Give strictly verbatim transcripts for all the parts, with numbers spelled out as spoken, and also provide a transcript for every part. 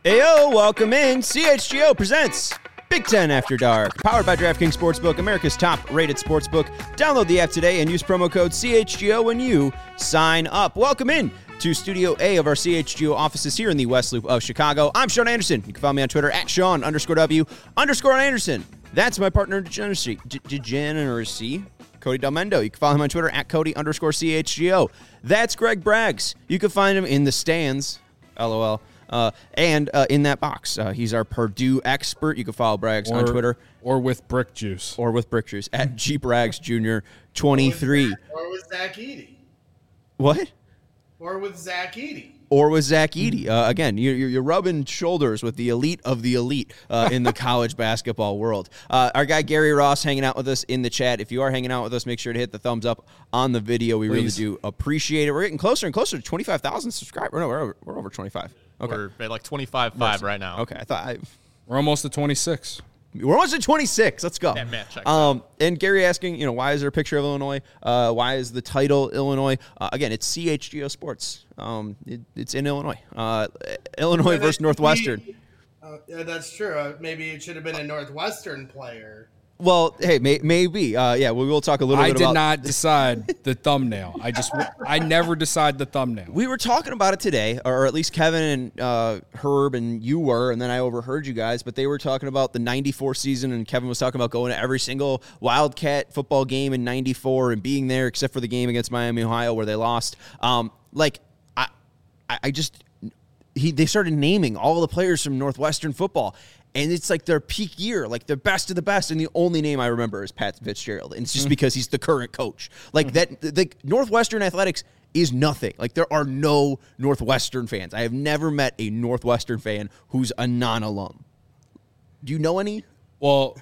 Ayo, welcome in. C H G O presents Big Ten After Dark, powered by DraftKings Sportsbook, America's top-rated sportsbook. Download the app today and use promo code C H G O when you sign up. Welcome in to Studio A of our C H G O offices here in the West Loop of Chicago. I'm Sean Anderson. You can follow me on Twitter at Sean underscore W underscore Anderson. That's my partner in degeneracy, D- degeneracy, Cody Delmendo. You can follow him on Twitter at Cody underscore C H G O. That's Greg Braggs. You can find him in the stands, LOL. Uh, and uh, in that box, uh, he's our Purdue expert. You can follow Braggs or, on Twitter. Or with Brick Juice. Or with Brick Juice at G Braggs Junior twenty-three. Or with Zach Edey. What? Or with Zach Edey. Or with Zach Edey. Uh, again, you're, you're rubbing shoulders with the elite of the elite uh, in the college basketball world. Uh, our guy Gary Ross hanging out with us in the chat. If you are hanging out with us, make sure to hit the thumbs up on the video. We Please. really do appreciate it. We're getting closer and closer to twenty-five thousand subscribers. No, we're over, we're over twenty-five. Okay. We're at like twenty-five five right now. Okay, I thought I... We're almost at twenty-six. We're almost at twenty-six. Let's go. That math checks um, and Gary asking, you know, why is there a picture of Illinois? Uh, why is the title Illinois? Uh, again, it's C H G O Sports. Um, it, it's in Illinois. Uh, Illinois versus Northwestern. Uh, yeah, that's true. Uh, maybe it should have been a Northwestern player. Well, hey, may, maybe. Uh, yeah, we will talk a little I bit did about... not decide the thumbnail. I just, I never decide the thumbnail. We were talking about it today, or at least Kevin and uh, Herb and you were, and then I overheard you guys, but they were talking about the ninety-four season, and Kevin was talking about going to every single Wildcat football game in ninety-four and being there, except for the game against Miami, Ohio, where they lost. Um, like, I, I just... He, they started naming all the players from Northwestern football, and it's like their peak year, like the best of the best, and the only name I remember is Pat Fitzgerald, and it's just mm-hmm. because he's the current coach. Like mm-hmm. that, the Northwestern athletics is nothing. Like there are no Northwestern fans. I have never met a Northwestern fan who's a non-alum. Do you know any? Well,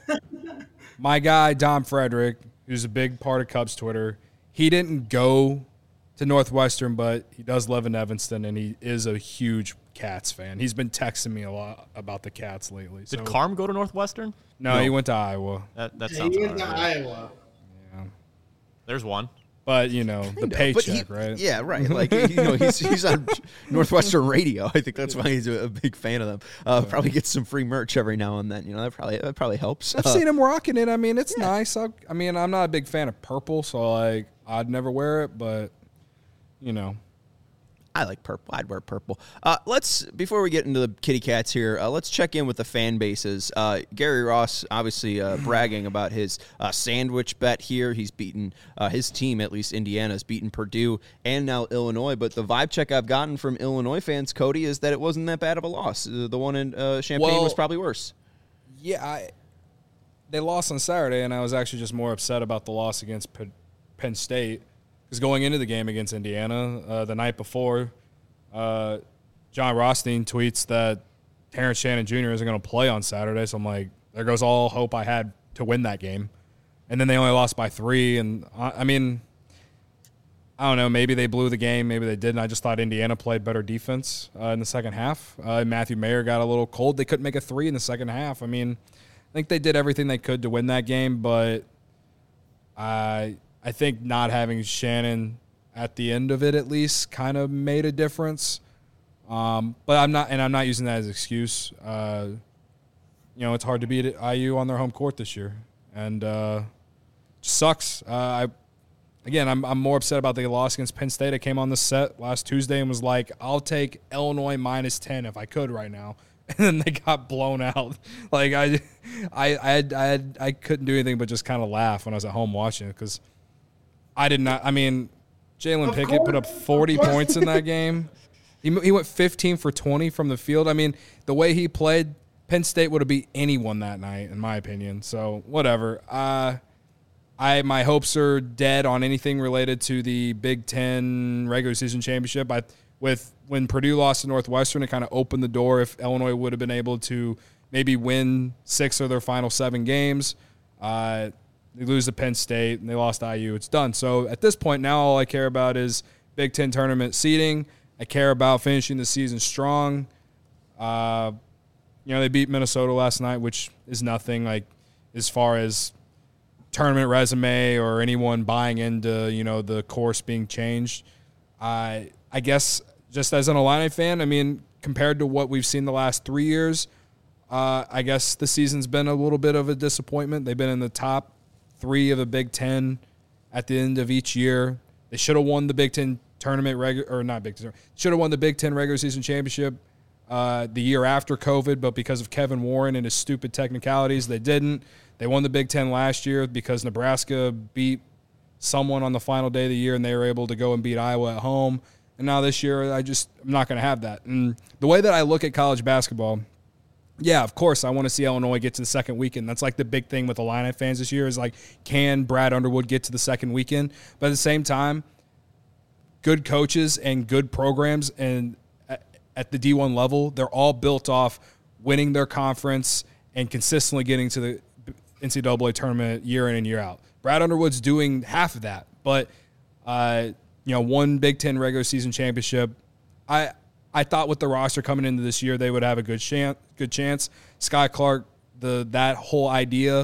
my guy Dom Frederick, who's a big part of Cubs Twitter, he didn't go to Northwestern, but he does live in Evanston, and he is a huge Cats fan. He's been texting me a lot about the Cats lately. Did so. Carm go to Northwestern? No, no, he went to Iowa. That, that yeah, sounds he went to right. Iowa. Yeah. There's one. But, you know, the know, paycheck, he, right? Yeah, right. Like, you know, he's he's on Northwestern radio. I think that's why he's a, a big fan of them. Uh, probably gets some free merch every now and then. You know, that probably that probably helps. I've uh, seen him rocking it. I mean, it's yeah. nice. I, I mean, I'm not a big fan of purple, so, like, I'd never wear it, but, you know. I like purple. I'd wear purple. Uh, let's before we get into the kitty cats here, uh, let's check in with the fan bases. Uh, Gary Ross obviously uh, bragging about his uh, sandwich bet here. He's beaten uh, his team, at least Indiana's beaten Purdue and now Illinois. But the vibe check I've gotten from Illinois fans, Cody, is that it wasn't that bad of a loss. Uh, the one in uh, Champaign well, was probably worse. Yeah, I, they lost on Saturday, and I was actually just more upset about the loss against P- Penn State. Because going into the game against Indiana uh, the night before, uh, John Rothstein tweets that Terrence Shannon Junior isn't going to play on Saturday. So I'm like, there goes all hope I had to win that game. And then they only lost by three. And, I, I mean, I don't know. Maybe they blew the game. Maybe they didn't. I just thought Indiana played better defense uh, in the second half. Uh, Matthew Mayer got a little cold. They couldn't make a three in the second half. I mean, I think they did everything they could to win that game. But I... I think not having Shannon at the end of it at least kind of made a difference. Um, but I'm not, and I'm not using that as an excuse. Uh, you know, it's hard to beat I U on their home court this year, and uh, it sucks. Uh, I again, I'm I'm more upset about the loss against Penn State. I came on the set last Tuesday and was like, I'll take Illinois minus ten if I could right now. And then they got blown out. Like I, I, I, had, I, had, I couldn't do anything but just kind of laugh when I was at home watching it because. I did not. I mean, Jalen Pickett course, put up forty points in that game. He he went fifteen for twenty from the field. I mean, the way he played, Penn State would have beat anyone that night, in my opinion. So whatever. Uh, I my hopes are dead on anything related to the Big Ten regular season championship. I with when Purdue lost to Northwestern, it kind of opened the door. If Illinois would have been able to maybe win six of their final seven games. Uh, They lose to Penn State, and they lost to I U. It's done. So at this point now, all I care about is Big Ten tournament seeding. I care about finishing the season strong. Uh, you know, they beat Minnesota last night, which is nothing, like, as far as tournament resume or anyone buying into, you know, the course being changed. I I guess just as an Illini fan, I mean, compared to what we've seen the last three years, uh, I guess the season's been a little bit of a disappointment. They've been in the top three of the Big Ten at the end of each year. They should have won the Big Ten tournament, regu- or not Big Ten, should have won the Big Ten regular season championship uh, the year after COVID, but because of Kevin Warren and his stupid technicalities, they didn't. They won the Big Ten last year because Nebraska beat someone on the final day of the year, and they were able to go and beat Iowa at home. And now this year, I just I'm not going to have that. And the way that I look at college basketball, yeah, of course, I want to see Illinois get to the second weekend. That's like the big thing with Illini fans this year is like, can Brad Underwood get to the second weekend? But at the same time, good coaches and good programs and at the D one level, they're all built off winning their conference and consistently getting to the N C double A tournament year in and year out. Brad Underwood's doing half of that, but uh, you know, one Big Ten regular season championship. I I thought with the roster coming into this year, they would have a good chance. Good chance. Sky Clark, the that whole idea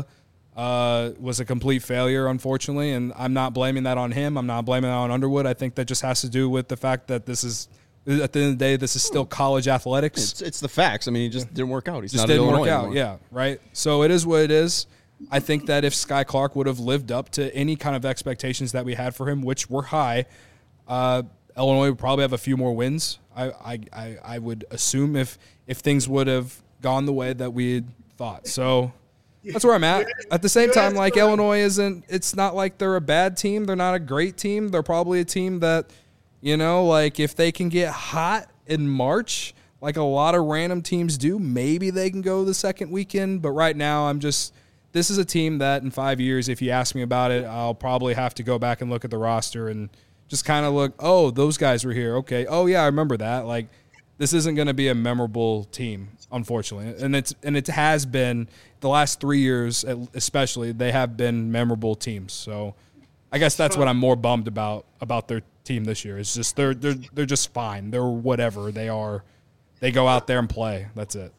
uh, was a complete failure, unfortunately, and I'm not blaming that on him. I'm not blaming that on Underwood. I think that just has to do with the fact that this is, at the end of the day, this is still college athletics. It's, it's the facts. I mean, he just didn't work out. He's just not didn't at work Illinois out. anymore. Yeah, right. So it is what it is. I think that if Sky Clark would have lived up to any kind of expectations that we had for him, which were high, uh, Illinois would probably have a few more wins. I, I, I, I would assume if if things would have gone the way that we had thought. So that's where I'm at. At the same time, like Illinois isn't. It's not like they're a bad team. They're not a great team. They're probably a team that, you know, like if they can get hot in March, like a lot of random teams do, maybe they can go the second weekend. But right now, I'm just. This is a team that in five years, if you ask me about it, I'll probably have to go back and look at the roster and just kind of look, oh, those guys were here. Okay. Oh, yeah, I remember that. Like, this isn't going to be a memorable team, unfortunately. And it's and it has been the last three years, especially, they have been memorable teams. So I guess that's what I'm more bummed about about their team this year. It's just they're they're they're just fine. They're whatever they are. They go out there and play. That's it.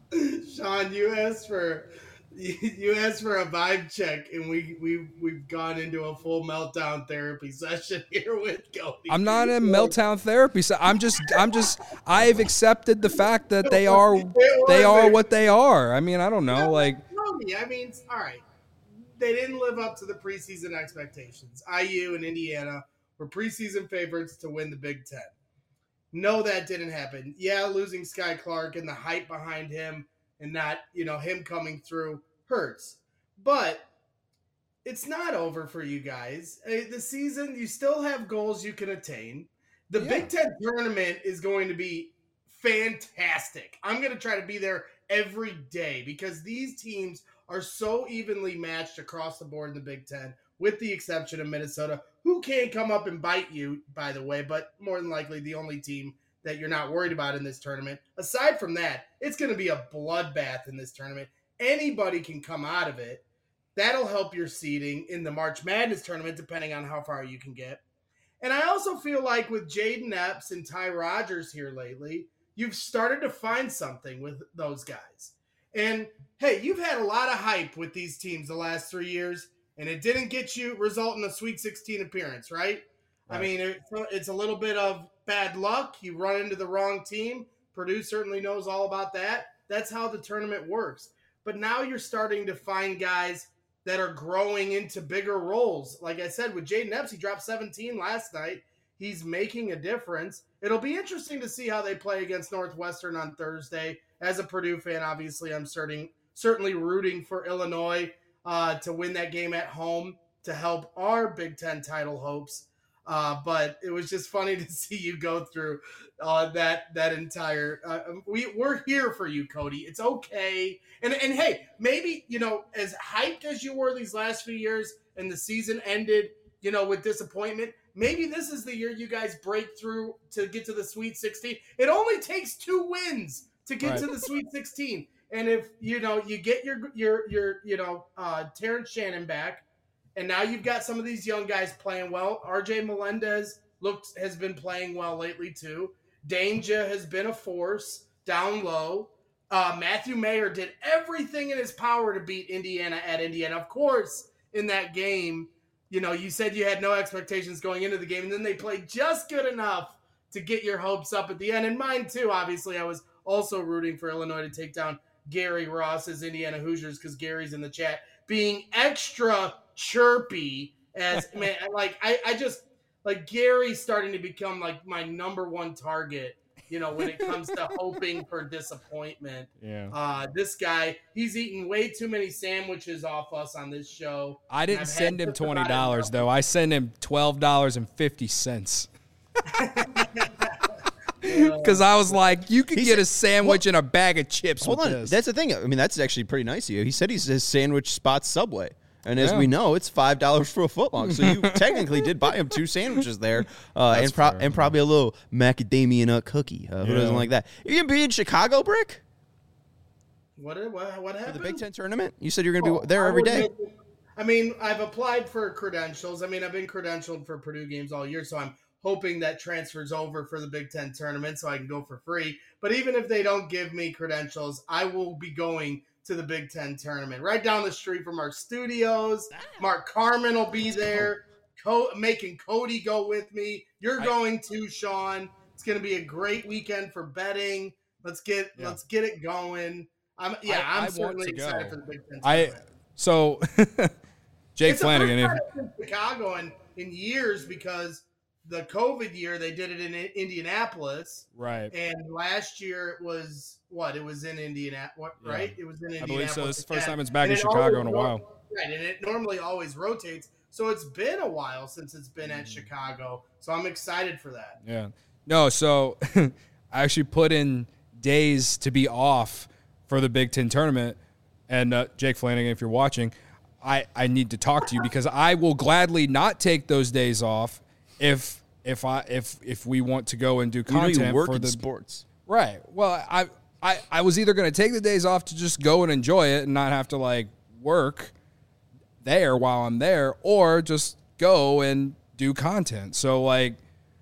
Sean, you asked for you asked for a vibe check, and we we we've gone into a full meltdown therapy session here with Cody. I'm not in meltdown therapy. So I'm just I'm just I've accepted the fact that they are they are what they are. I mean, I don't know, like Cody, I mean, all right. They didn't live up to the preseason expectations. I U and Indiana were preseason favorites to win the Big Ten. No, that didn't happen. Yeah, losing Sky Clark and the hype behind him and not, you know, him coming through hurts. But it's not over for you guys. The season, you still have goals you can attain. The yeah. Big Ten tournament is going to be fantastic. I'm going to try to be there every day because these teams are so evenly matched across the board in the Big Ten, with the exception of Minnesota, who can come up and bite you, by the way, but more than likely the only team that you're not worried about in this tournament. Aside from that, it's going to be a bloodbath in this tournament. Anybody can come out of it. That'll help your seeding in the March Madness tournament, depending on how far you can get. And I also feel like with Jaden Epps and Ty Rodgers here lately, you've started to find something with those guys. And, hey, you've had a lot of hype with these teams the last three years, and it didn't get you result in a Sweet sixteen appearance, right? right. I mean, it, it's a little bit of bad luck. You run into the wrong team. Purdue certainly knows all about that. That's how the tournament works. But now you're starting to find guys that are growing into bigger roles. Like I said, with Jaden Epps, he dropped seventeen last night. He's making a difference. It'll be interesting to see how they play against Northwestern on Thursday. As a Purdue fan, obviously, I'm certain, certainly rooting for Illinois uh, to win that game at home to help our Big Ten title hopes. Uh, but it was just funny to see you go through uh, that that entire. Uh, we we're here for you, Cody. It's okay. And and hey, maybe you know, as hyped as you were these last few years, and the season ended, you know, with disappointment. Maybe this is the year you guys break through to get to the Sweet sixteen. It only takes two wins to get right. to the Sweet sixteen. And if you know you get your your your you know uh, Terrence Shannon back. And now you've got some of these young guys playing well. R J Melendez looks has been playing well lately too. Danger has been a force down low. Uh, Matthew Mayer did everything in his power to beat Indiana at Indiana. Of course, in that game, you know, you said you had no expectations going into the game, and then they played just good enough to get your hopes up at the end. And mine too, obviously. I was also rooting for Illinois to take down Gary Ross's Indiana Hoosiers because Gary's in the chat being extra chirpy as man, like I, I just like Gary's starting to become like my number one target, you know, when it comes to hoping for disappointment. Yeah. Uh, this guy, he's eaten way too many sandwiches off us on this show. I didn't send him twenty dollars though. I sent him twelve dollars and fifty cents. Because I was like, you could He get said- a sandwich and a bag of chips Hold with on, this. that's the thing. I mean, that's actually pretty nice of you. He said he's his sandwich spot Subway, and as Yeah. we know, it's five dollars for a footlong. So you technically did buy him two sandwiches there, uh, That's and pro- fair. and probably a little macadamia nut cookie. Uh, who Yeah. doesn't like that? You gonna be in Chicago, Brick, What what what for happened? the Big Ten tournament? You said you're gonna Oh, be there I every would day. make it- I mean, I've applied for credentials. I mean, I've been credentialed for Purdue games all year, so I'm hoping that transfers over for the Big Ten tournament so I can go for free. But even if they don't give me credentials, I will be going to the Big Ten tournament right down the street from our studios. Mark Carmen will be there, Co- making Cody go with me. You're I- going to, Sean. It's going to be a great weekend for betting. Let's get Yeah. let's get it going. I'm yeah, I- I I'm want certainly to excited go. for the Big Ten I tournament. so Jake It's Flanagan. the If, first time in Chicago in, in years because the COVID year they did it in I- Indianapolis, right. and last year it was what? It was in Indianapolis, what? Yeah. Right? It was in I Indianapolis. believe so. This is the first again. time it's back And in it Chicago always in a ro- while. Right, and it normally always rotates. So it's been a while since it's been Mm. at Chicago. So I'm excited for that. Yeah. No, so I actually put in days to be off for the Big Ten tournament. And uh, Jake Flanagan, if you're watching, I, I need to talk to you because I will gladly not take those days off if if I if if we want to go and do You know content you work for in the sports. right. Well, I I I was either going to take the days off to just go and enjoy it and not have to like work there while I'm there, or just go and do content. So like,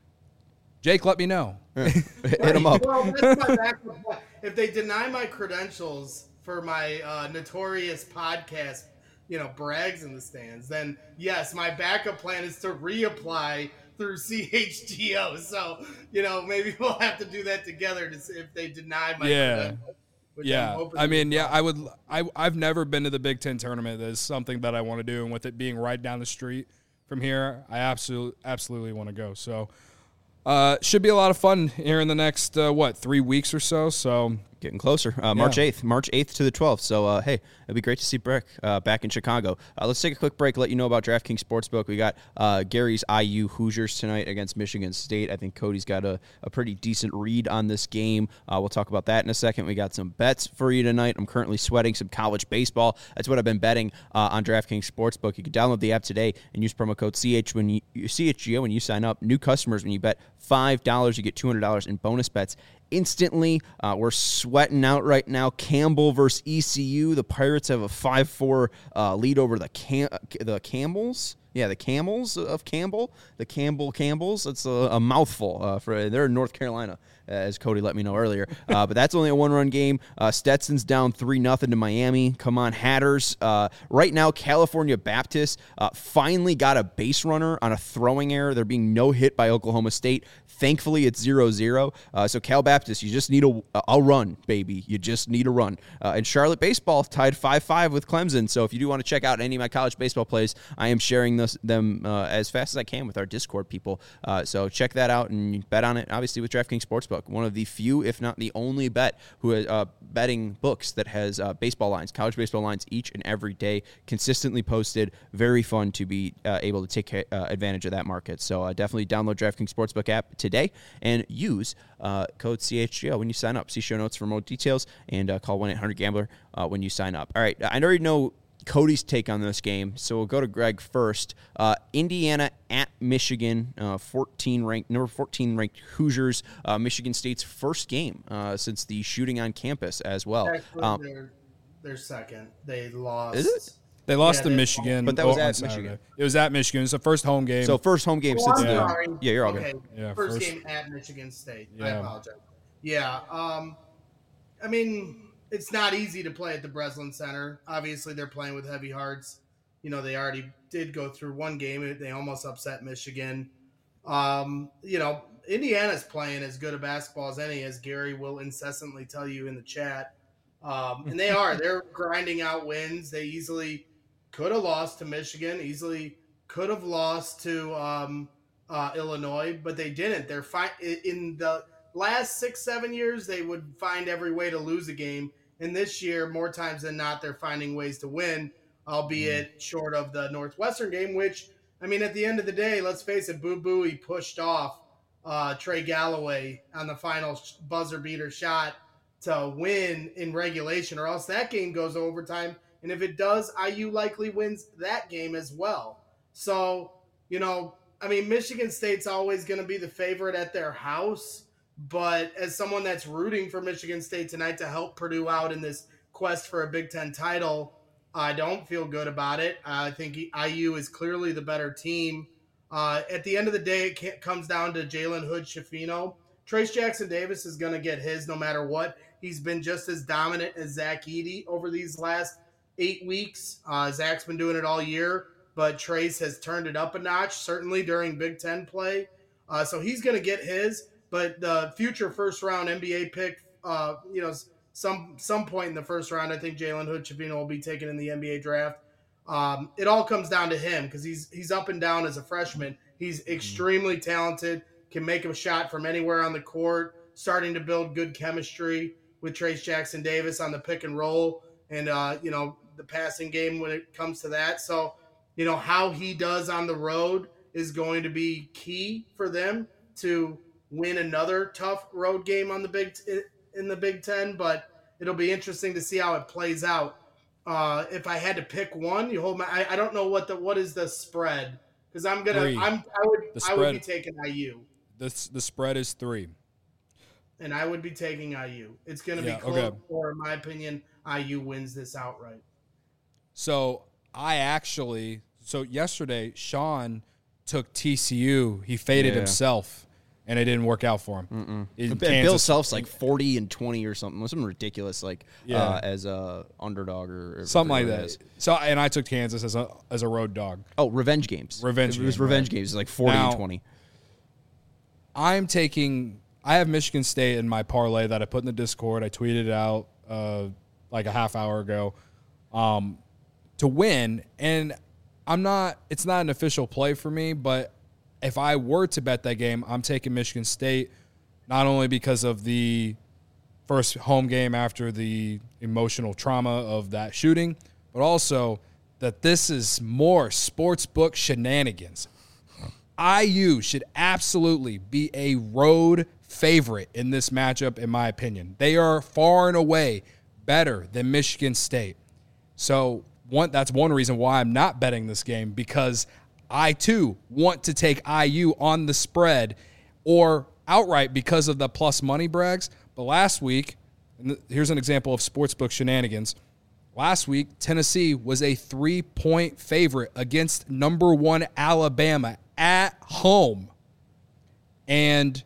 Jake, let me know. Hit him up. Well, that's my backup plan. If they deny my credentials for my uh, notorious podcast, you know, brags in the stands, then yes, my backup plan is to reapply through C H G O. So, you know, maybe we'll have to do that together to see if they deny my Yeah. credentials. which I'm Yeah, hoping I mean, they yeah, don't. I would. I I've never been to the Big Ten tournament. That's something that I want to do, and with it being right down the street from here, I absolutely absolutely want to go. So, uh, should be a lot of fun here in the next uh, what three weeks or so. So. Getting closer. Uh, March Yeah. eighth. March eighth to the twelfth. So, uh, hey, it'd be great to see Brick uh, back in Chicago. Uh, let's take a quick break, let you know about DraftKings Sportsbook. We got uh, Gary's I U Hoosiers tonight against Michigan State. I think Cody's got a, a pretty decent read on this game. Uh, we'll talk about that in a second. We got some bets for you tonight. I'm currently sweating some college baseball. That's what I've been betting uh, on DraftKings Sportsbook. You can download the app today and use promo code C H when you, C H G O when you sign up. New customers, when you bet five dollars, you get two hundred dollars in bonus bets instantly. Uh, we're sweating out right now. Campbell versus E C U. The Pirates have a five four uh, lead over the Cam- the Campbells. Yeah, the Camels of Campbell. The Campbell Campbells. That's a, a mouthful. Uh, for they're in North Carolina, as Cody let me know earlier. Uh, but that's only a one-run game. Uh, Stetson's down three nothing to Miami. Come on, Hatters. Uh, right now, California Baptist uh, finally got a base runner on a throwing error. They're being no hit by Oklahoma State. Thankfully, it's zero zero. Uh, so Cal Baptist, you just need a, a run, baby. You just need a run. Uh, and Charlotte Baseball tied five five with Clemson. So if you do want to check out any of my college baseball plays, I am sharing this, them uh, as fast as I can with our Discord people. Uh, so check that out and bet on it, obviously, with DraftKings Sportsbook. One of the few, if not the only bet, who is uh, betting books that has uh, baseball lines, college baseball lines each and every day, consistently posted. Very fun to be uh, able to take uh, advantage of that market. So uh, definitely download DraftKings Sportsbook app today and use uh, code C H G O when you sign up. See show notes for more details and uh, call one eight hundred gambler uh, when you sign up. All right, I already know Cody's take on this game, so we'll go to Greg first. Uh, Indiana at Michigan, uh, fourteen ranked, number fourteen ranked Hoosiers. Uh, Michigan State's first game uh, since the shooting on campus as well. Actually, Um, they're, they're second. They lost. Is it? They lost Yeah, to they- Michigan, But that was on at Saturday. Michigan. It was at Michigan. It's the first home game. so first home game Oh, since I'm the sorry. yeah, you're all okay. good. Yeah, first, first- game at Michigan State. I Yeah. apologize. Yeah. Um, I mean, it's not easy to play at the Breslin Center. Obviously, they're playing with heavy hearts. You know, they already did go through one game. They almost upset Michigan. Um, you know, Indiana's playing as good a basketball as any, as Gary will incessantly tell you in the chat. Um, and they are. They're grinding out wins. They easily could have lost to Michigan, easily could have lost to um, uh, Illinois, but they didn't. They're fi- in the last six, seven years, they would find every way to lose a game. And this year, more times than not, they're finding ways to win, albeit short of the Northwestern game, which, I mean, at the end of the day, let's face it, Boo Boo, he pushed off uh, Trey Galloway on the final buzzer beater shot to win in regulation, or else that game goes to overtime. And if it does, I U likely wins that game as well. So, you know, I mean, Michigan State's always going to be the favorite at their house. But as someone that's rooting for Michigan State tonight to help Purdue out in this quest for a Big Ten title, I don't feel good about it. I think I U is clearly the better team. Uh, at the end of the day, it can't, comes down to Jalen Hood-Schifino. Trace Jackson Davis is going to get his no matter what. He's been just as dominant as Zach Edey over these last eight weeks. Uh, Zach's been doing it all year, but Trace has turned it up a notch, certainly during Big Ten play. Uh, so he's going to get his. But the future first-round N B A pick, uh, you know, some some point in the first round, I think Jalen Hood-Schifino will be taken in the N B A draft. Um, it all comes down to him because he's he's up and down as a freshman. He's extremely talented, can make a shot from anywhere on the court, starting to build good chemistry with Trace Jackson Davis on the pick and roll and, uh, you know, the passing game when it comes to that. So, you know, how he does on the road is going to be key for them to win another tough road game on the big t- in the Big Ten, but it'll be interesting to see how it plays out. Uh, if I had to pick one, you hold my. I, I don't know what the what is the spread because I'm gonna. Three. I'm. I would. The I would spread- be taking I U, The the spread is three. and I would be taking I U. It's gonna Yeah, be close, okay. or in my opinion, I U wins this outright. So I actually, so yesterday, Sean took T C U. He faded Yeah. himself, and it didn't work out for him. In And Bill Kansas- Self's like forty and twenty or something. Something ridiculous, like Yeah. uh, as a underdog or, or something like whatever it that. is. So, and I took Kansas as a as a road dog. Oh, revenge games. Revenge It was game, revenge right. games. It's like forty Now- and twenty. I'm taking. I have Michigan State in my parlay that I put in the Discord. I tweeted it out uh, like a half hour ago um, to win, and I'm not. It's not an official play for me, but if I were to bet that game, I'm taking Michigan State, not only because of the first home game after the emotional trauma of that shooting, but also that this is more sportsbook shenanigans. I U should absolutely be a road favorite in this matchup, in my opinion. They are far and away better than Michigan State. So one, that's one reason why I'm not betting this game, because I, too, want to take I U on the spread or outright because of the plus money brags. But last week, and here's an example of sportsbook shenanigans. Last week, Tennessee was a three-point favorite against number one Alabama at home. And,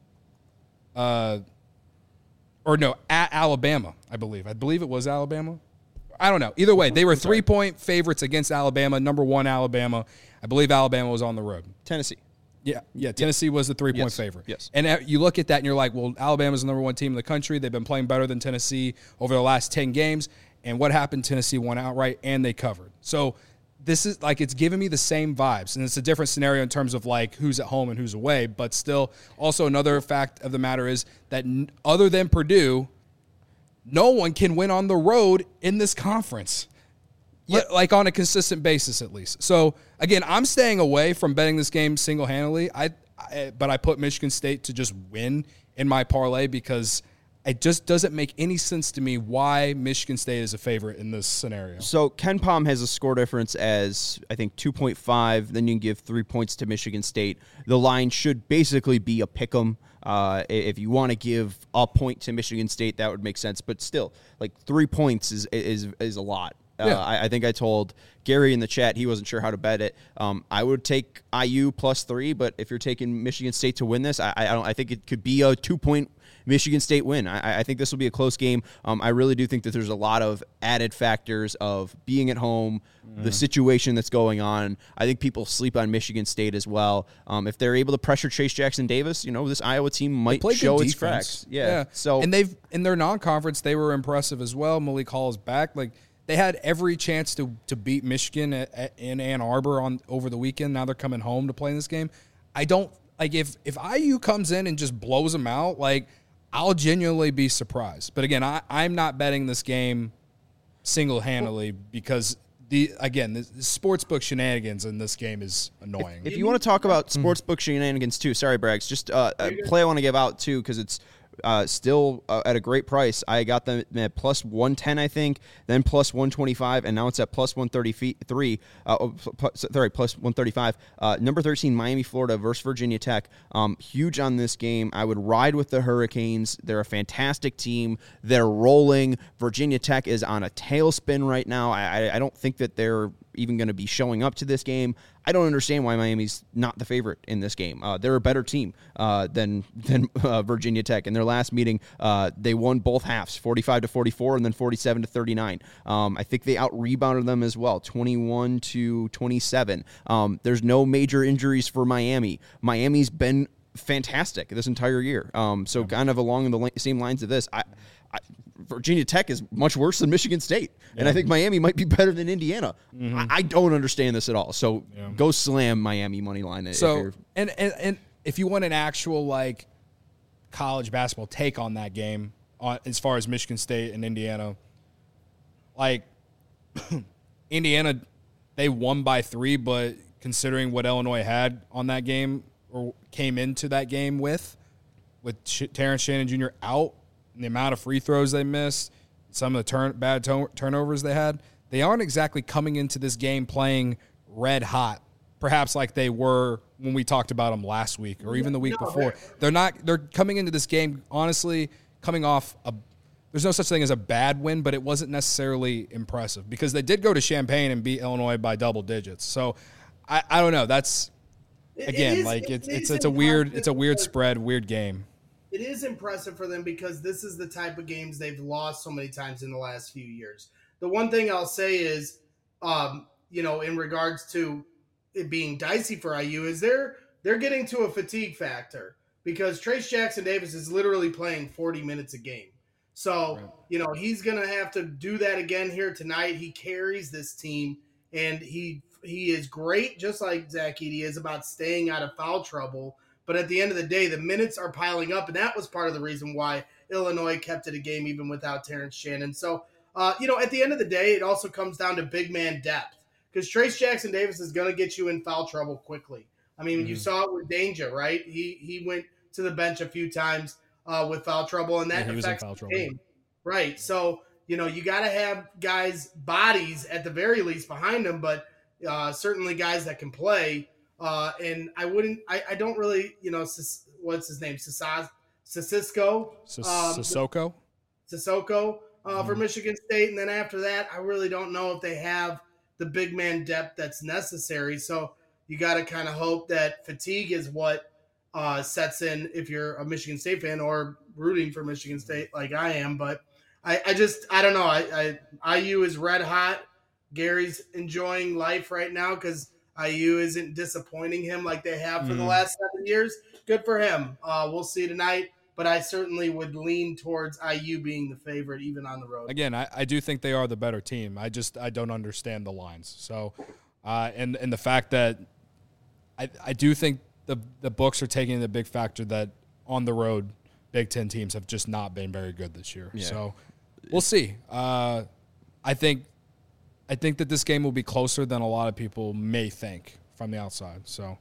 uh, or no, at Alabama, I believe. I believe it was Alabama. I don't know. Either way, they were three-point favorites against Alabama, number one Alabama. I believe Alabama was on the road. Tennessee. Yeah, yeah. Tennessee was the three-point Yes, favorite. yes. And uh, you look at that and you're like, well, Alabama's the number one team in the country. They've been playing better than Tennessee over the last ten games. And what happened? Tennessee won outright, and they covered. So this is like, it's giving me the same vibes. And it's a different scenario in terms of like who's at home and who's away. But still, also another fact of the matter is that n- other than Purdue, no one can win on the road in this conference. Li- Like on a consistent basis, at least. So again, I'm staying away from betting this game single-handedly. I, I, but I put Michigan State to just win in my parlay because it just doesn't make any sense to me why Michigan State is a favorite in this scenario. So Ken Pom has a score difference as, I think, two point five. Then you can give three points to Michigan State. The line should basically be a pick 'em. Uh, if you want to give a point to Michigan State, that would make sense. But still, like three points is is is a lot. Uh, Yeah. I, I think I told Gary in the chat he wasn't sure how to bet it. Um, I would take I U plus three, but if you're taking Michigan State to win this, I, I don't. I think it could be a two point Michigan State win. I, I think this will be a close game. Um, I really do think that there's a lot of added factors of being at home, mm. the situation that's going on. I think people sleep on Michigan State as well. Um, if they're able to pressure Chase Jackson Davis, you know, this Iowa team might show its cracks. Yeah. yeah. So and they've in their non-conference they were impressive as well. Malik Hall is back. Like they had every chance to to beat Michigan at, at, in Ann Arbor on over the weekend. Now they're coming home to play in this game. I don't like if if I U comes in and just blows them out, like. I'll genuinely be surprised. But again, I, I'm not betting this game single-handedly because, the again, the, the sportsbook shenanigans in this game is annoying. If, if you want to talk about sportsbook shenanigans too, sorry, Braggs, just uh, a play I want to give out too because it's uh, still uh, at a great price. I got them at plus one ten, I think, then plus one twenty-five, and now it's at plus one thirty-three. Uh, oh, plus, sorry, plus one thirty-five. Uh, number thirteen, Miami, Florida versus Virginia Tech. Um, huge on this game. I would ride with the Hurricanes. They're a fantastic team. They're rolling. Virginia Tech is on a tailspin right now. I, I, I don't think that they're even going to be showing up to this game. I don't understand why Miami's not the favorite in this game. Uh, they're a better team uh, than than uh, Virginia Tech. In their last meeting, uh, they won both halves, forty-five to forty-four, and then forty-seven to thirty-nine. Um, I think they out rebounded them as well, twenty-one to twenty-seven. Um, there's no major injuries for Miami. Miami's been fantastic this entire year. Um, so kind of along the same lines of this, I. I Virginia Tech is much worse than Michigan State, yeah. and I think Miami might be better than Indiana. Mm-hmm. I, I don't understand this at all. So yeah. go slam Miami money line. So and, and and if you want an actual like college basketball take on that game, on as far as Michigan State and Indiana, like Indiana, they won by three, but considering what Illinois had on that game or came into that game with, with Terrence Shannon Junior out. And the amount of free throws they missed, some of the turn, bad to- turnovers they had, they aren't exactly coming into this game playing red hot, perhaps like they were when we talked about them last week or even the week no, before. They're, they're not. They're coming into this game, honestly, coming off a – there's no such thing as a bad win, but it wasn't necessarily impressive because they did go to Champaign and beat Illinois by double digits. So, I, I don't know. That's, again, it is, like it's, it it's, it's a weird it's a weird spread, weird game. It is impressive for them because this is the type of games they've lost so many times in the last few years. The one thing I'll say is, um, you know, in regards to it being dicey for I U, is they're they're getting to a fatigue factor because Trace Jackson Davis is literally playing forty minutes a game. So, right. you know, he's going to have to do that again here tonight. He carries this team, and he he is great, just like Zach Edey is, about staying out of foul trouble. But at the end of the day, the minutes are piling up, and that was part of the reason why Illinois kept it a game even without Terrence Shannon. So, uh, you know, at the end of the day, it also comes down to big man depth because Trace Jackson Davis is going to get you in foul trouble quickly. I mean, mm-hmm. you saw it with Danger, right? He he went to the bench a few times uh, with foul trouble, and that yeah, affects the trouble. game. Right. So, you know, you got to have guys' bodies at the very least behind them, but uh, certainly guys that can play. Uh, and I wouldn't, I, I don't really, you know, what's his name? Sisas, Sissoko? Um, Sissoko? Sissoko uh, mm. for Michigan State. And then after that, I really don't know if they have the big man depth that's necessary. So you got to kind of hope that fatigue is what uh, sets in if you're a Michigan State fan or rooting for Michigan State like I am. But I, I just, I don't know. I, I I U is red hot. Gary's enjoying life right now because I U isn't disappointing him like they have for mm. the last seven years. Good for him. Uh, we'll see tonight, but I certainly would lean towards I U being the favorite even on the road. Again, I, I do think they are the better team. I just I don't understand the lines. So, uh, and and the fact that I I do think the the books are taking the big factor that on the road Big Ten teams have just not been very good this year. Yeah. So we'll see. Uh, I think. I think that this game will be closer than a lot of people may think from the outside. So,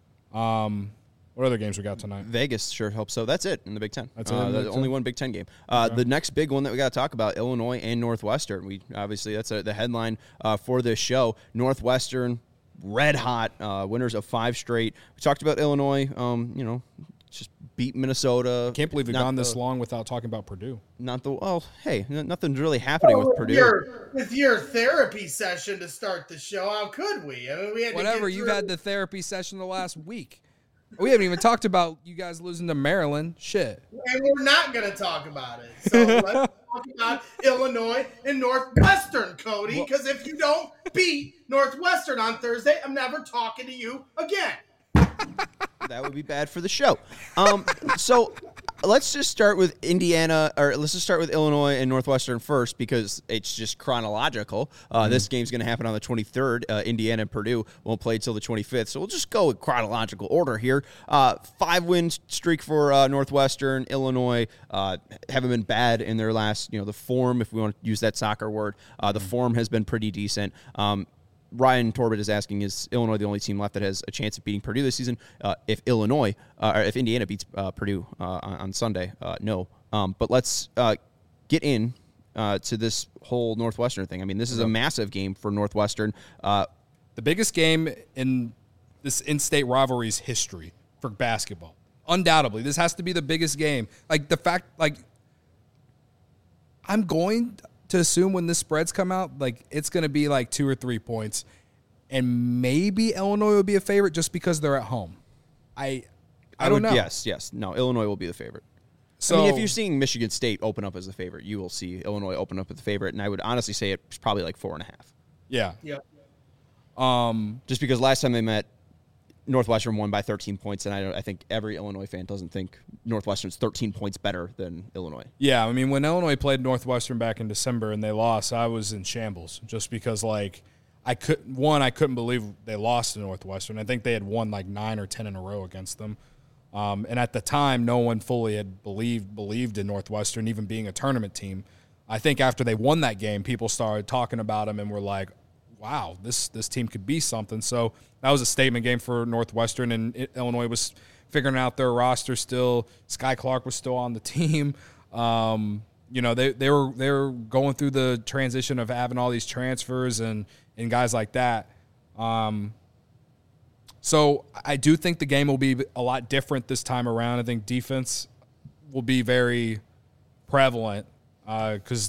um, what other games we got tonight? Vegas sure helps. So that's it in the Big Ten. That's uh, it. The only one Big Ten game. Uh, okay. The next big one that we got to talk about: Illinois and Northwestern. We obviously that's a, the headline uh, for this show. Northwestern, red hot, uh, winners of five straight. We talked about Illinois. Um, you know. just beat Minnesota. Can't believe we've Not gone this the- long without talking about Purdue. Not the well. Hey, n- nothing's really happening Well, with with Purdue. Your, with your therapy session to start the show, how could we? I mean, we had Whatever. To get You've through- had the therapy session the last week. We haven't even talked about you guys losing to Maryland. Shit. and we're not going to talk about it. So let's talk about Illinois and Northwestern, Cody. Because if you don't beat Northwestern on Thursday, I'm never talking to you again. That would be bad for the show. Um, so let's just start with Indiana, or let's just start with Illinois and Northwestern first, because it's just chronological. Uh, Mm-hmm. This game's going to happen on the twenty-third. Uh, Indiana and Purdue won't play until the twenty-fifth. So we'll just go in chronological order here. Uh, five win streak for uh, Northwestern. Illinois uh, haven't been bad in their last, you know, the form, if we want to use that soccer word. Uh, the form has been pretty decent. Um, Ryan Torbett is asking, is Illinois the only team left that has a chance of beating Purdue this season? Uh, if Illinois, uh, or if Indiana beats uh, Purdue uh, on, on Sunday, uh, no. Um, but let's uh, get in uh, to this whole Northwestern thing. I mean, this is a massive game for Northwestern. Uh, The biggest game in this in-state rivalry's history for basketball. Undoubtedly. This has to be the biggest game. Like, the fact, like, I'm going to assume when the spreads come out, like, it's going to be like two or three points. And maybe Illinois will be a favorite just because they're at home. I I, don't would, know. Yes, yes. No, Illinois will be the favorite. So, I mean, if you're seeing Michigan State open up as the favorite, you will see Illinois open up as the favorite. And I would honestly say it's probably like four and a half. yeah. Yeah. Um, Just because last time they met, Northwestern won by thirteen points, and I, don't, I think every Illinois fan doesn't think Northwestern's thirteen points better than Illinois. Yeah, I mean, when Illinois played Northwestern back in December and they lost, I was in shambles just because, like, I could one, I couldn't believe they lost to Northwestern. I think they had won like nine or ten in a row against them, um, and at the time, no one fully had believed believed in Northwestern even being a tournament team. I think after they won that game, people started talking about them and were like, "Wow, this this team could be something." So that was a statement game for Northwestern, and it, Illinois was figuring out their roster still. Sky Clark was still on the team. Um, you know, they they were they were going through the transition of having all these transfers and and guys like that. Um, so I do think the game will be a lot different this time around. I think defense will be very prevalent because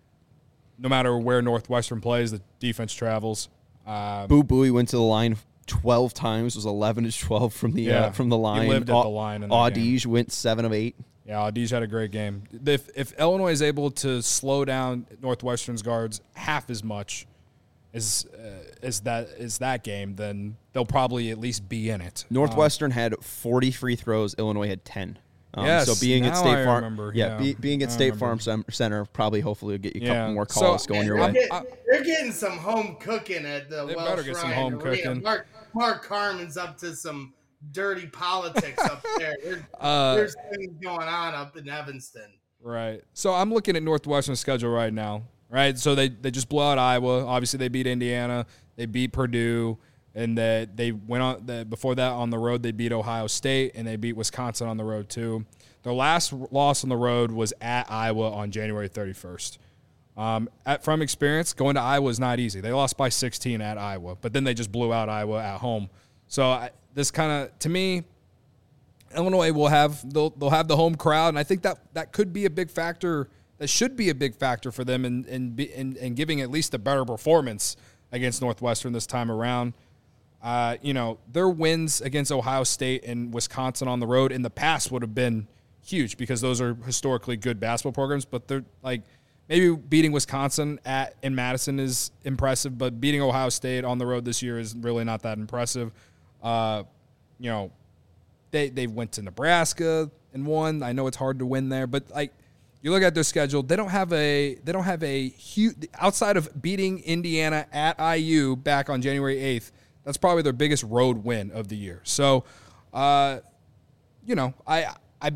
no matter where Northwestern plays, the defense travels. Um, Boo Booey went to the line twelve times, was eleven to twelve from the Yeah, uh, from the he line. lived at the line in that Audige went seven of eight. Yeah, Audige had a great game. If if Illinois is able to slow down Northwestern's guards half as much as uh, as that as that game, then they'll probably at least be in it. Northwestern had forty free throws. Illinois had ten. Um, Yes, so being at now State I Farm, remember, yeah, yeah. Be, being at I State remember. Farm Cem- Center probably hopefully will get you a Yeah. couple more So- calls going your They're way. getting, I- they're getting some home cooking at the They Welsh better get some Ryan home Arena. cooking. Mark, Mark Carmen's up to some dirty politics up there. There- Uh, There's things going on up in Evanston. Right. So I'm looking at Northwestern's schedule right now. Right. So they, they just blew out Iowa. Obviously, they beat Indiana. They beat Purdue. And they, they went on the, before that on the road. They beat Ohio State and they beat Wisconsin on the road too. Their last loss on the road was at Iowa on January thirty-first. Um, at, from experience, going to Iowa is not easy. They lost by sixteen at Iowa, but then they just blew out Iowa at home. So I, this kind of, to me, Illinois will have they'll they'll have the home crowd, and I think that that could be a big factor. That should be a big factor for them in in in, in giving at least a better performance against Northwestern this time around. Uh, you know, their wins against Ohio State and Wisconsin on the road in the past would have been huge because those are historically good basketball programs. But they're like maybe beating Wisconsin at in Madison is impressive, but beating Ohio State on the road this year is really not that impressive. Uh, you know. They they went to Nebraska and won. I know it's hard to win there, but like you look at their schedule, they don't have a they don't have a huge outside of beating Indiana at I U back on January eighth. That's probably their biggest road win of the year. So, uh, you know, I I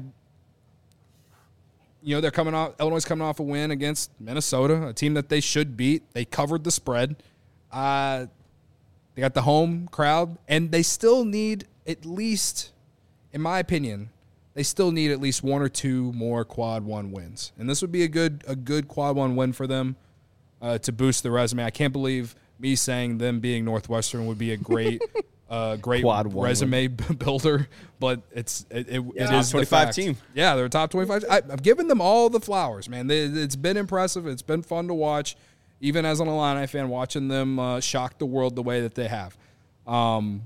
you know they're coming off Illinois coming off a win against Minnesota, a team that they should beat. They covered the spread. Uh, they got the home crowd, and they still need at least. In my opinion, they still need at least one or two more quad one wins, and this would be a good a good quad one win for them uh, to boost the resume. I can't believe me saying them being Northwestern would be a great a great Quad one resume builder, but it's it, it, Yeah. it is the twenty-five fact. team. Yeah, they're a top twenty-five. I, I've given them all the flowers, man. They, it's been impressive. It's been fun to watch, even as an Illini fan, watching them uh, shock the world the way that they have. Um,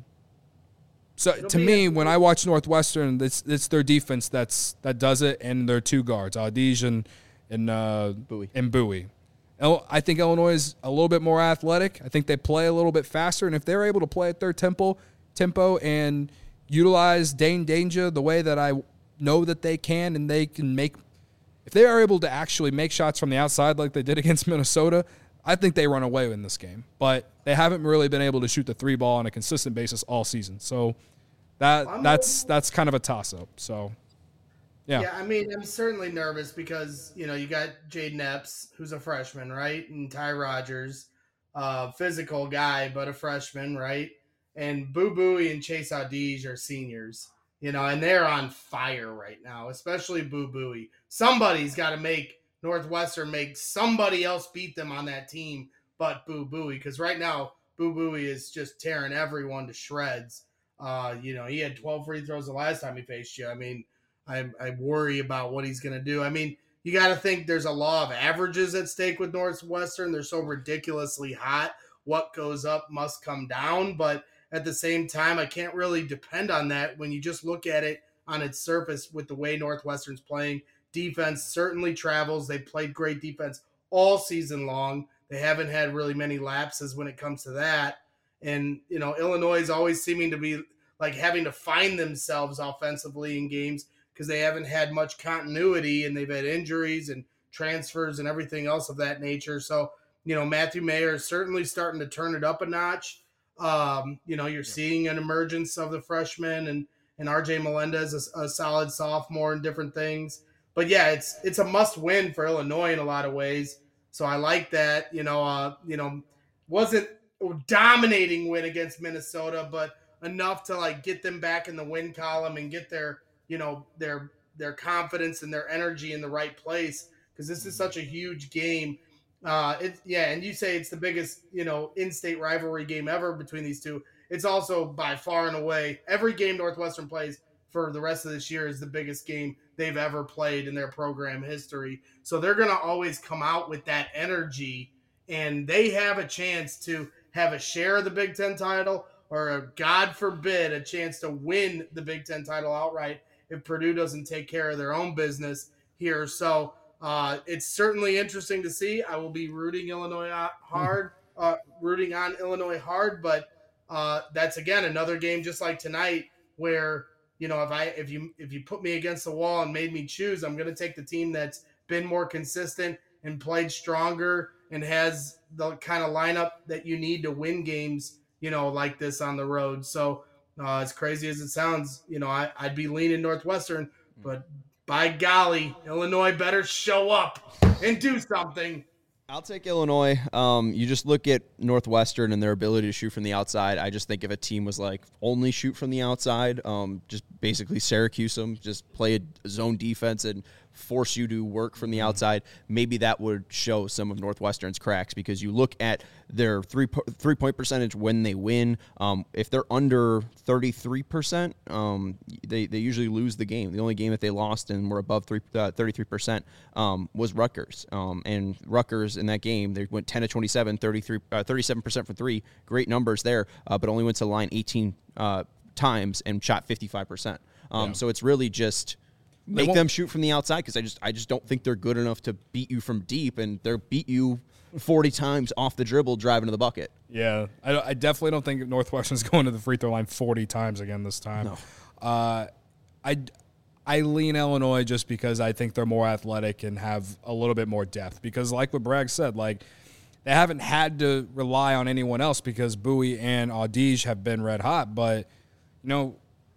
so It'll to be me, a- when I watch Northwestern, it's it's their defense that's that does it, and their two guards, Audige and and uh, Bowie. and Bowie. Il- I think Illinois is a little bit more athletic. I think they play a little bit faster, and if they're able to play at their tempo, tempo and utilize Dane Danger the way that I know that they can, and they can make, if they are able to actually make shots from the outside like they did against Minnesota, I think they run away in this game. But they haven't really been able to shoot the three ball on a consistent basis all season. So that I'm that's that's kind of a toss up. So yeah. Yeah, I mean, I'm certainly nervous because, you know, you got Jaden Epps, who's a freshman, right? And Ty Rogers, uh, physical guy, but a freshman, right? And Boo Buie and Chase Audige are seniors, you know, and they're on fire right now, especially Boo Buie. Somebody's got to make Northwestern make somebody else beat them on that team but Boo Buie, because right now Boo Buie is just tearing everyone to shreds. Uh, you know, he had twelve free throws the last time he faced you. I mean, I, I worry about what he's going to do. I mean, you got to think there's a law of averages at stake with Northwestern. They're so ridiculously hot. What goes up must come down. But at the same time, I can't really depend on that when you just look at it on its surface with the way Northwestern's playing. Defense certainly travels. They played great defense all season long. They haven't had really many lapses when it comes to that. And, you know, Illinois is always seeming to be like having to find themselves offensively in games because they haven't had much continuity and they've had injuries and transfers and everything else of that nature. So, you know, Matthew Mayer is certainly starting to turn it up a notch. Um, you know, you're seeing an emergence of the freshman and, and R J Melendez, a, a solid sophomore and different things. But, yeah, it's it's a must-win for Illinois in a lot of ways. So I like that. You know, uh, you know, wasn't a dominating win against Minnesota, but enough to, like, get them back in the win column and get their – you know, their their confidence and their energy in the right place because this is such a huge game. Uh, it, yeah, and you say it's the biggest, you know, in-state rivalry game ever between these two. It's also by far and away, every game Northwestern plays for the rest of this year is the biggest game they've ever played in their program history. So they're going to always come out with that energy, and they have a chance to have a share of the Big Ten title or, a, God forbid, a chance to win the Big Ten title outright if Purdue doesn't take care of their own business here. So uh, it's certainly interesting to see. I will be rooting Illinois hard, uh, rooting on Illinois hard, but uh, that's, again, another game just like tonight where, you know, if I if you if you put me against the wall and made me choose, I'm going to take the team that's been more consistent and played stronger and has the kind of lineup that you need to win games, you know, like this on the road. So Uh, as crazy as it sounds, you know, I, I'd be leaning Northwestern, but by golly, Illinois better show up and do something. I'll take Illinois. Um, you just look at Northwestern and their ability to shoot from the outside. I just think if a team was like only shoot from the outside, um, just basically Syracuse them, just play a zone defense and force you to work from the outside, maybe that would show some of Northwestern's cracks because you look at their three three point percentage when they win. Um, if they're under thirty-three percent, um, they, they usually lose the game. The only game that they lost and were above three, uh, thirty-three percent um, was Rutgers. Um, and Rutgers in that game, they went ten to twenty-seven, thirty-three, uh, thirty-seven percent for three. Great numbers there, uh, but only went to the line eighteen uh, times and shot fifty-five percent. Um, Yeah. So it's really just make won't- them shoot from the outside because I just I just don't think they're good enough to beat you from deep, and they'll beat you forty times off the dribble driving to the bucket. Yeah, I, I definitely don't think Northwestern's going to the free throw line forty times again this time. No. Uh, I, I lean Illinois just because I think they're more athletic and have a little bit more depth. Because like what Bragg said, like they haven't had to rely on anyone else because Bowie and Audige have been red hot. But, you know,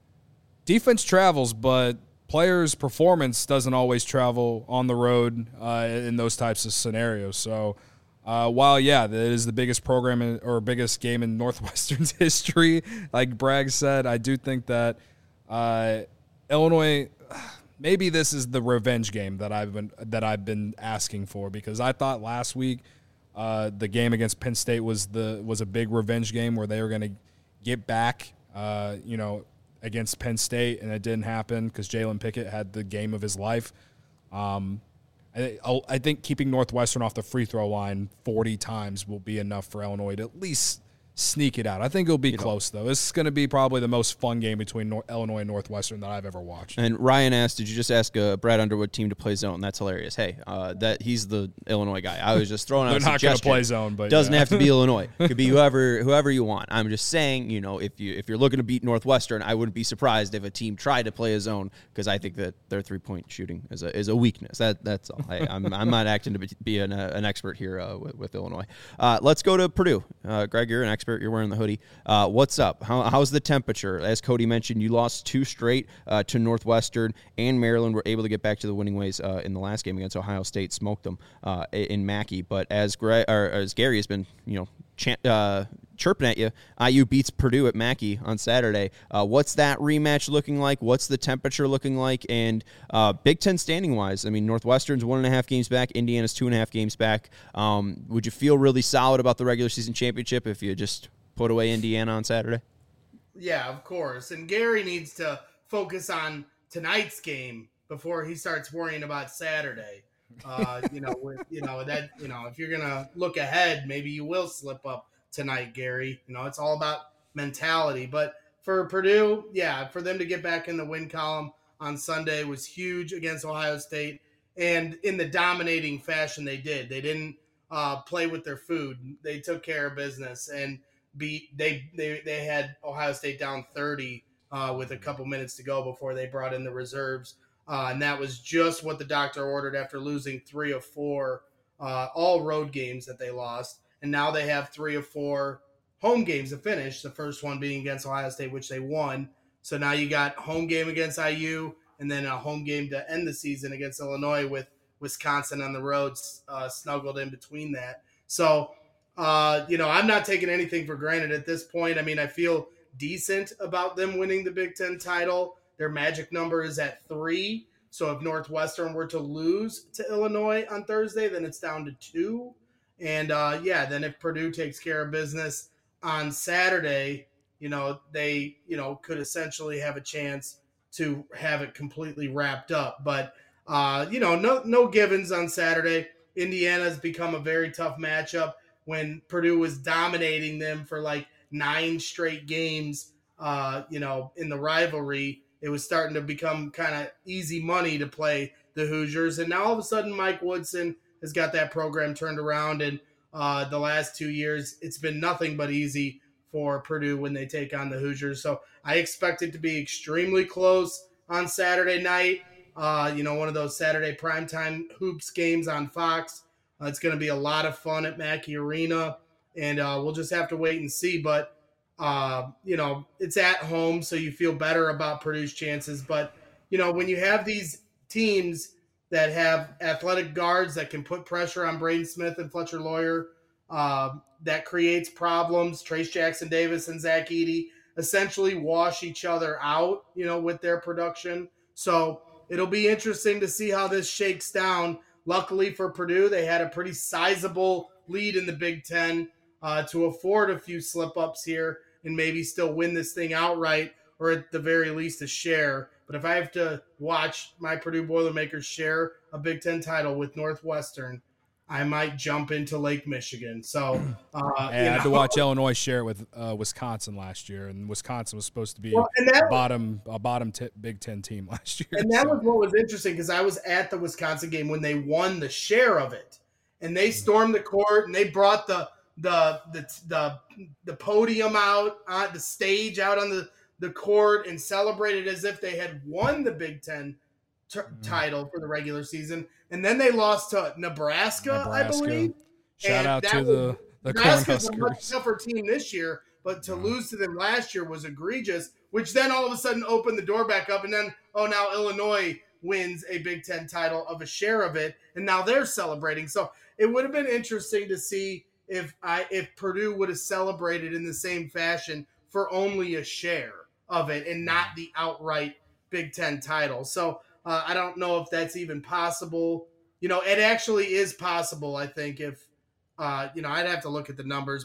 defense travels, but players' performance doesn't always travel on the road uh, in those types of scenarios. So, uh, while, yeah, that is the biggest program in, or biggest game in Northwestern's history, like Bragg said, I do think that uh, Illinois, maybe this is the revenge game that I've been that I've been asking for, because I thought last week uh, the game against Penn State was the was a big revenge game where they were going to get back, uh, you know, against Penn State, and it didn't happen because Jalen Pickett had the game of his life. Um, I, I think keeping Northwestern off the free throw line forty times will be enough for Illinois to at least sneak it out. I think it'll be you close, know. though. This is going to be probably the most fun game between Nor- Illinois and Northwestern that I've ever watched. And Ryan asked, did you just ask a Brad Underwood team to play zone? That's hilarious. Hey, uh, that he's the Illinois guy. I was just throwing out a They're not going to suggestion. play zone, but doesn't yeah. have to be Illinois. It could be whoever whoever you want. I'm just saying, you know, if you if you're looking to beat Northwestern, I wouldn't be surprised if a team tried to play a zone because I think that their three point shooting is a is a weakness. That that's all. I, I'm I'm not acting to be an, uh, an expert here uh, with, with Illinois. Uh, let's go to Purdue. Uh, Greg, you're an expert. You're wearing the hoodie. Uh, what's up? How, how's the temperature? As Cody mentioned, you lost two straight uh, to Northwestern, and Maryland were able to get back to the winning ways uh, in the last game against Ohio State, smoked them uh, in Mackey. But as Gre- or as Gary has been, you know, ch- uh, chirping at you, I U beats Purdue at Mackey on Saturday. Uh, what's that rematch looking like? What's the temperature looking like? And uh, Big Ten standing wise, I mean, Northwestern's one and a half games back. Indiana's two and a half games back. Um, would you feel really solid about the regular season championship if you just put away Indiana on Saturday? Yeah, of course. And Gary needs to focus on tonight's game before he starts worrying about Saturday. Uh, you know, with, you know that you know if you're gonna look ahead, maybe you will slip up tonight, Gary. You know, it's all about mentality. But for Purdue, yeah, for them to get back in the win column on Sunday was huge against Ohio State, and in the dominating fashion they did. They didn't uh, play with their food. They took care of business and beat they they they had Ohio State down thirty uh, with a couple minutes to go before they brought in the reserves, uh, and that was just what the doctor ordered after losing three of four uh, all road games that they lost, and now they have three of four home games to finish. The first one being against Ohio State, which they won. So now you got home game against I U, and then a home game to end the season against Illinois with Wisconsin on the road uh, snuggled in between that. So. Uh, you know, I'm not taking anything for granted at this point. I mean, I feel decent about them winning the Big Ten title. Their magic number is at three. So if Northwestern were to lose to Illinois on Thursday, then it's down to two. And, uh, yeah, then if Purdue takes care of business on Saturday, you know, they, you know, could essentially have a chance to have it completely wrapped up. But, uh, you know, no, no givens on Saturday. Indiana's become a very tough matchup. When Purdue was dominating them for like nine straight games, uh, you know, in the rivalry, it was starting to become kind of easy money to play the Hoosiers. And now all of a sudden, Mike Woodson has got that program turned around. And uh, the last two years, it's been nothing but easy for Purdue when they take on the Hoosiers. So I expect it to be extremely close on Saturday night. Uh, you know, one of those Saturday primetime hoops games on Fox. Uh, it's going to be a lot of fun at Mackey Arena, and uh, we'll just have to wait and see. But, uh, you know, it's at home, so you feel better about Purdue's chances. But, you know, when you have these teams that have athletic guards that can put pressure on Braden Smith and Fletcher Lawyer, uh, that creates problems. Trace Jackson Davis and Zach Edey essentially wash each other out, you know, with their production. So it'll be interesting to see how this shakes down. Luckily for Purdue, they had a pretty sizable lead in the Big Ten uh, to afford a few slip-ups here and maybe still win this thing outright or at the very least a share. But if I have to watch my Purdue Boilermakers share a Big Ten title with Northwestern, I might jump into Lake Michigan. So uh, hey, you I had know. to watch Illinois share it with uh, Wisconsin last year, and Wisconsin was supposed to be Well, and that a bottom a bottom t- Big Ten team last year. And that so. was what was interesting because I was at the Wisconsin game when they won the share of it, and they stormed the court and they brought the the the the, the podium out on the stage out on the, the court and celebrated as if they had won the Big Ten t- mm-hmm. title for the regular season. And then they lost to Nebraska, Nebraska. I believe. Shout and out to the the Nebraska's Cornhuskers. a much tougher team this year, but to lose to them last year was egregious, which then all of a sudden opened the door back up. And then, oh, now Illinois wins a Big Ten title of a share of it, and now they're celebrating. So it would have been interesting to see if I if Purdue would have celebrated in the same fashion for only a share of it and not the outright Big Ten title. So uh, I don't know if that's even possible. You know, it actually is possible, I think, if, uh, you know, I'd have to look at the numbers, but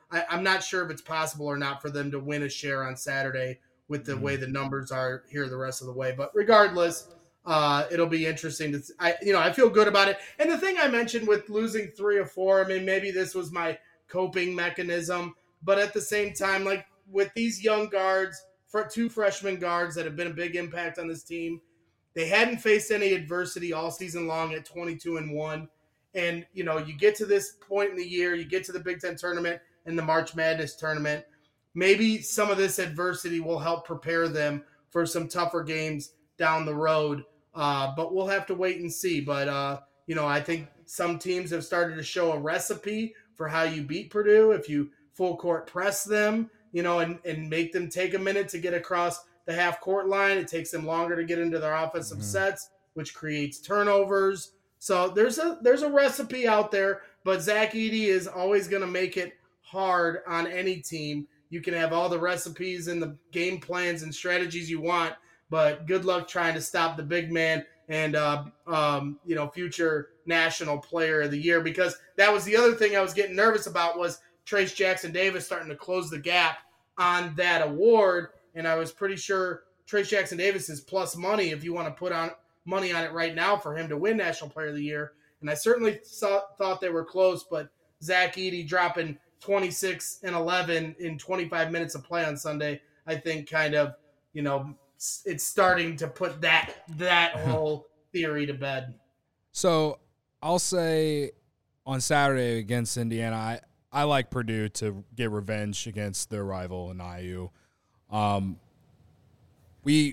I, I'm not sure if it's possible or not for them to win a share on Saturday with the mm. way the numbers are here the rest of the way. But regardless, uh, it'll be interesting to. I you know I feel good about it. And the thing I mentioned with losing three or four, I mean maybe this was my coping mechanism, but at the same time, like with these young guards, for two freshman guards that have been a big impact on this team, they hadn't faced any adversity all season long at twenty-two and one. And, you know, you get to this point in the year, you get to the Big Ten tournament and the March Madness tournament. Maybe some of this adversity will help prepare them for some tougher games down the road. Uh, but we'll have to wait and see. But, uh, you know, I think some teams have started to show a recipe for how you beat Purdue. If you full court press them, you know, and, and make them take a minute to get across the half court line. It takes them longer to get into their offensive mm-hmm. sets, which creates turnovers. So there's a there's a recipe out there, but Zach Edey is always going to make it hard on any team. You can have all the recipes and the game plans and strategies you want, but good luck trying to stop the big man and uh, um, you know future national player of the year, because that was the other thing I was getting nervous about was Trayce Jackson-Davis starting to close the gap on that award, and I was pretty sure Trayce Jackson-Davis is plus money if you want to put on money on it right now for him to win National Player of the Year. And I certainly saw, thought they were close, but Zach Edey dropping twenty-six and eleven in twenty-five minutes of play on Sunday, I think kind of, you know, it's starting to put that that whole theory to bed. So I'll say on Saturday against Indiana, I, I like Purdue to get revenge against their rival in I U. Um, we,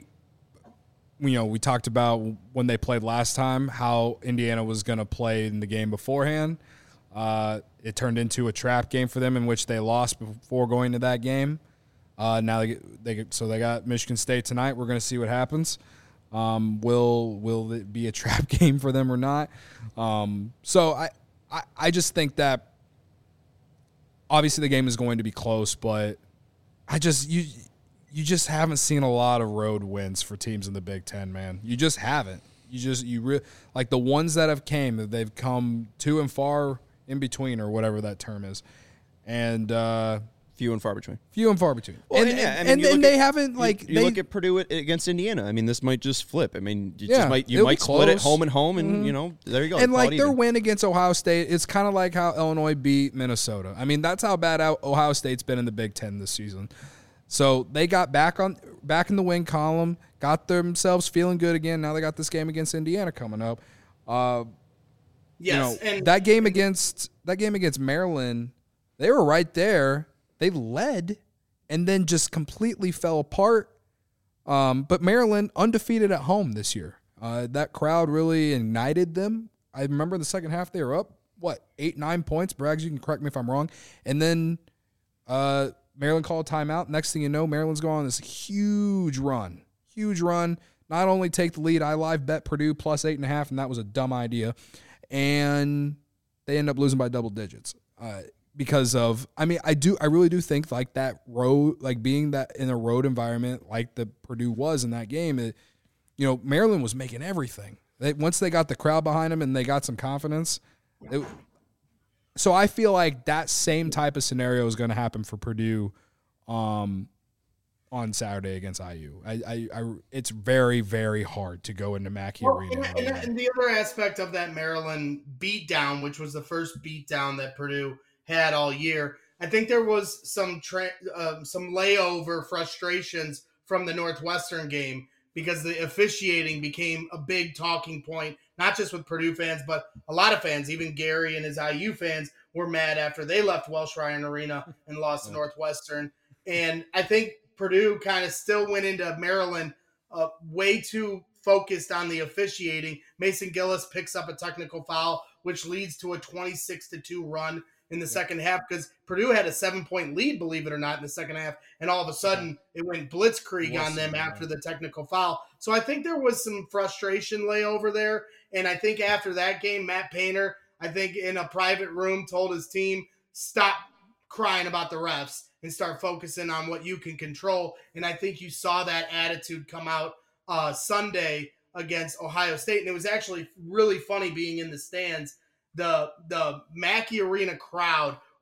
you know, we talked about when they played last time how Indiana was going to play in the game beforehand. Uh, it turned into a trap game for them in which they lost before going to that game. Uh, now they get, they get, so they got Michigan State tonight. We're going to see what happens. Um, will will it be a trap game for them or not? Um, so I, I I just think that obviously the game is going to be close, but I just you you just haven't seen a lot of road wins for teams in the Big Ten, man. You just haven't. You just you re- like the ones that have came, they've come to and far in between, or whatever that term is, and uh, few and far between. Few and far between. Well, and and, yeah, I mean, and, and at, they haven't like you, you they, look at Purdue against Indiana. I mean, this might just flip. I mean, you yeah, just might you might split close. it home and home, and mm-hmm. you know there you go. And like their win against Ohio State, it's kind of like how Illinois beat Minnesota. I mean, that's how bad Ohio State's been in the Big Ten this season. So they got back on back in the win column, got themselves feeling good again. Now they got this game against Indiana coming up. Uh, yes, you know, and that game against that game against Maryland, they were right there. They led, and then just completely fell apart. Um, but Maryland undefeated at home this year. Uh, that crowd really ignited them. I remember in the second half they were up what eight nine points. Braggs, you can correct me if I'm wrong. And then uh, Maryland called a timeout. Next thing you know, Maryland's going on this huge run. Huge run. Not only take the lead, I live bet Purdue plus eight and a half, and that was a dumb idea. And they end up losing by double digits uh, because of. I mean, I do. I really do think like that road, like being that in a road environment, like the Purdue was in that game. It, you know, Maryland was making everything. They, once they got the crowd behind them and they got some confidence. It, so I feel like that same type of scenario is going to happen for Purdue um, on Saturday against I U. I, I, I, it's very, very hard to go into Mackey well, Arena. And, and, and the other aspect of that Maryland beatdown, which was the first beatdown that Purdue had all year, I think there was some tra- uh, some layover frustrations from the Northwestern game because the officiating became a big talking point, not just with Purdue fans, but a lot of fans, even Gary and his I U fans, were mad after they left Welsh Ryan Arena and lost to Northwestern. And I think Purdue kind of still went into Maryland uh, way too focused on the officiating. Mason Gillis picks up a technical foul, which leads to a twenty-six to two run in the yeah. second half because Purdue had a seven-point lead, believe it or not, in the second half, and all of a sudden it went blitzkrieg it on them yeah. after the technical foul. So I think there was some frustration layover there, and I think after that game, Matt Painter, I think in a private room, told his team, stop crying about the refs and start focusing on what you can control. And I think you saw that attitude come out uh, Sunday against Ohio State. And it was actually really funny being in the stands. The the Mackey Arena crowd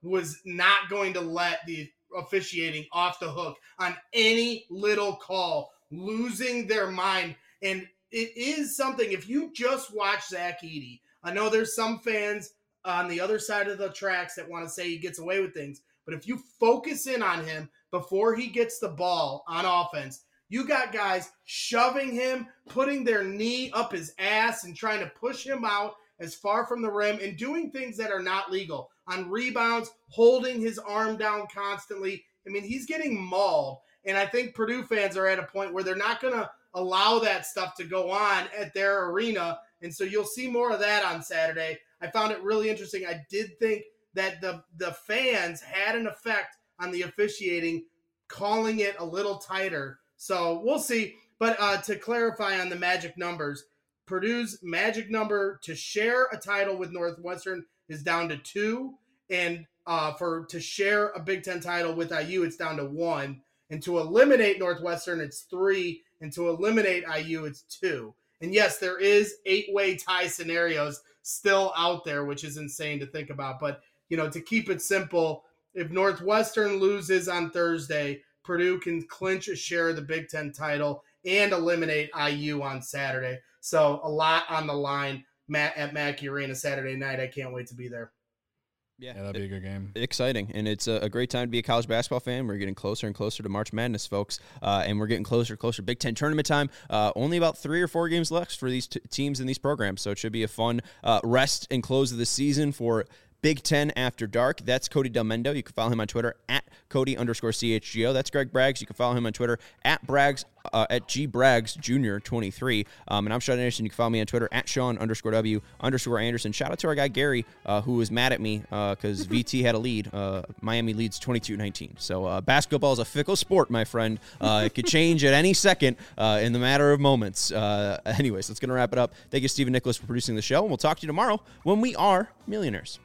was not going to let the officiating off the hook on any little call, losing their mind. And it is something, if you just watch Zach Edey, I know there's some fans on the other side of the tracks that want to say he gets away with things, but if you focus in on him before he gets the ball on offense, you got guys shoving him, putting their knee up his ass and trying to push him out as far from the rim and doing things that are not legal. On rebounds, holding his arm down constantly. I mean, he's getting mauled. And I think Purdue fans are at a point where they're not going to allow that stuff to go on at their arena. And so you'll see more of that on Saturday. I found it really interesting. I did think that the, the fans had an effect on the officiating, calling it a little tighter. So we'll see. But uh, to clarify on the magic numbers, Purdue's magic number to share a title with Northwestern is down to two. And uh, for to share a Big Ten title with I U, it's down to one. And to eliminate Northwestern, it's three. And to eliminate I U, it's two. And yes, there is eight-way tie scenarios still out there, which is insane to think about. But, you know, to keep it simple, if Northwestern loses on Thursday, Purdue can clinch a share of the Big Ten title and eliminate I U on Saturday. So a lot on the line Matt, at Mackey Arena Saturday night. I can't wait to be there. Yeah, yeah, that'd be a good game. Exciting, and it's a, a great time to be a college basketball fan. We're getting closer and closer to March Madness, folks, uh, and we're getting closer and closer to Big Ten tournament time. Uh, only about three or four games left for these t- teams in these programs, so it should be a fun uh, rest and close of the season for Big Ten After Dark. That's Cody Del Mendo. You can follow him on Twitter at Cody underscore C H G O. That's Greg Braggs. You can follow him on Twitter at Braggs, uh, at G Braggs Junior twenty-three. Um, and I'm Sean Anderson. You can follow me on Twitter at Sean underscore W underscore Anderson. Shout out to our guy Gary, uh, who was mad at me because uh, V T had a lead. Uh, Miami leads twenty-two nineteen. So uh, basketball is a fickle sport, my friend. Uh, it could change at any second uh, in the matter of moments. Uh, anyways, that's going to wrap it up. Thank you, Stephen Nicholas, for producing the show. And we'll talk to you tomorrow when we are millionaires.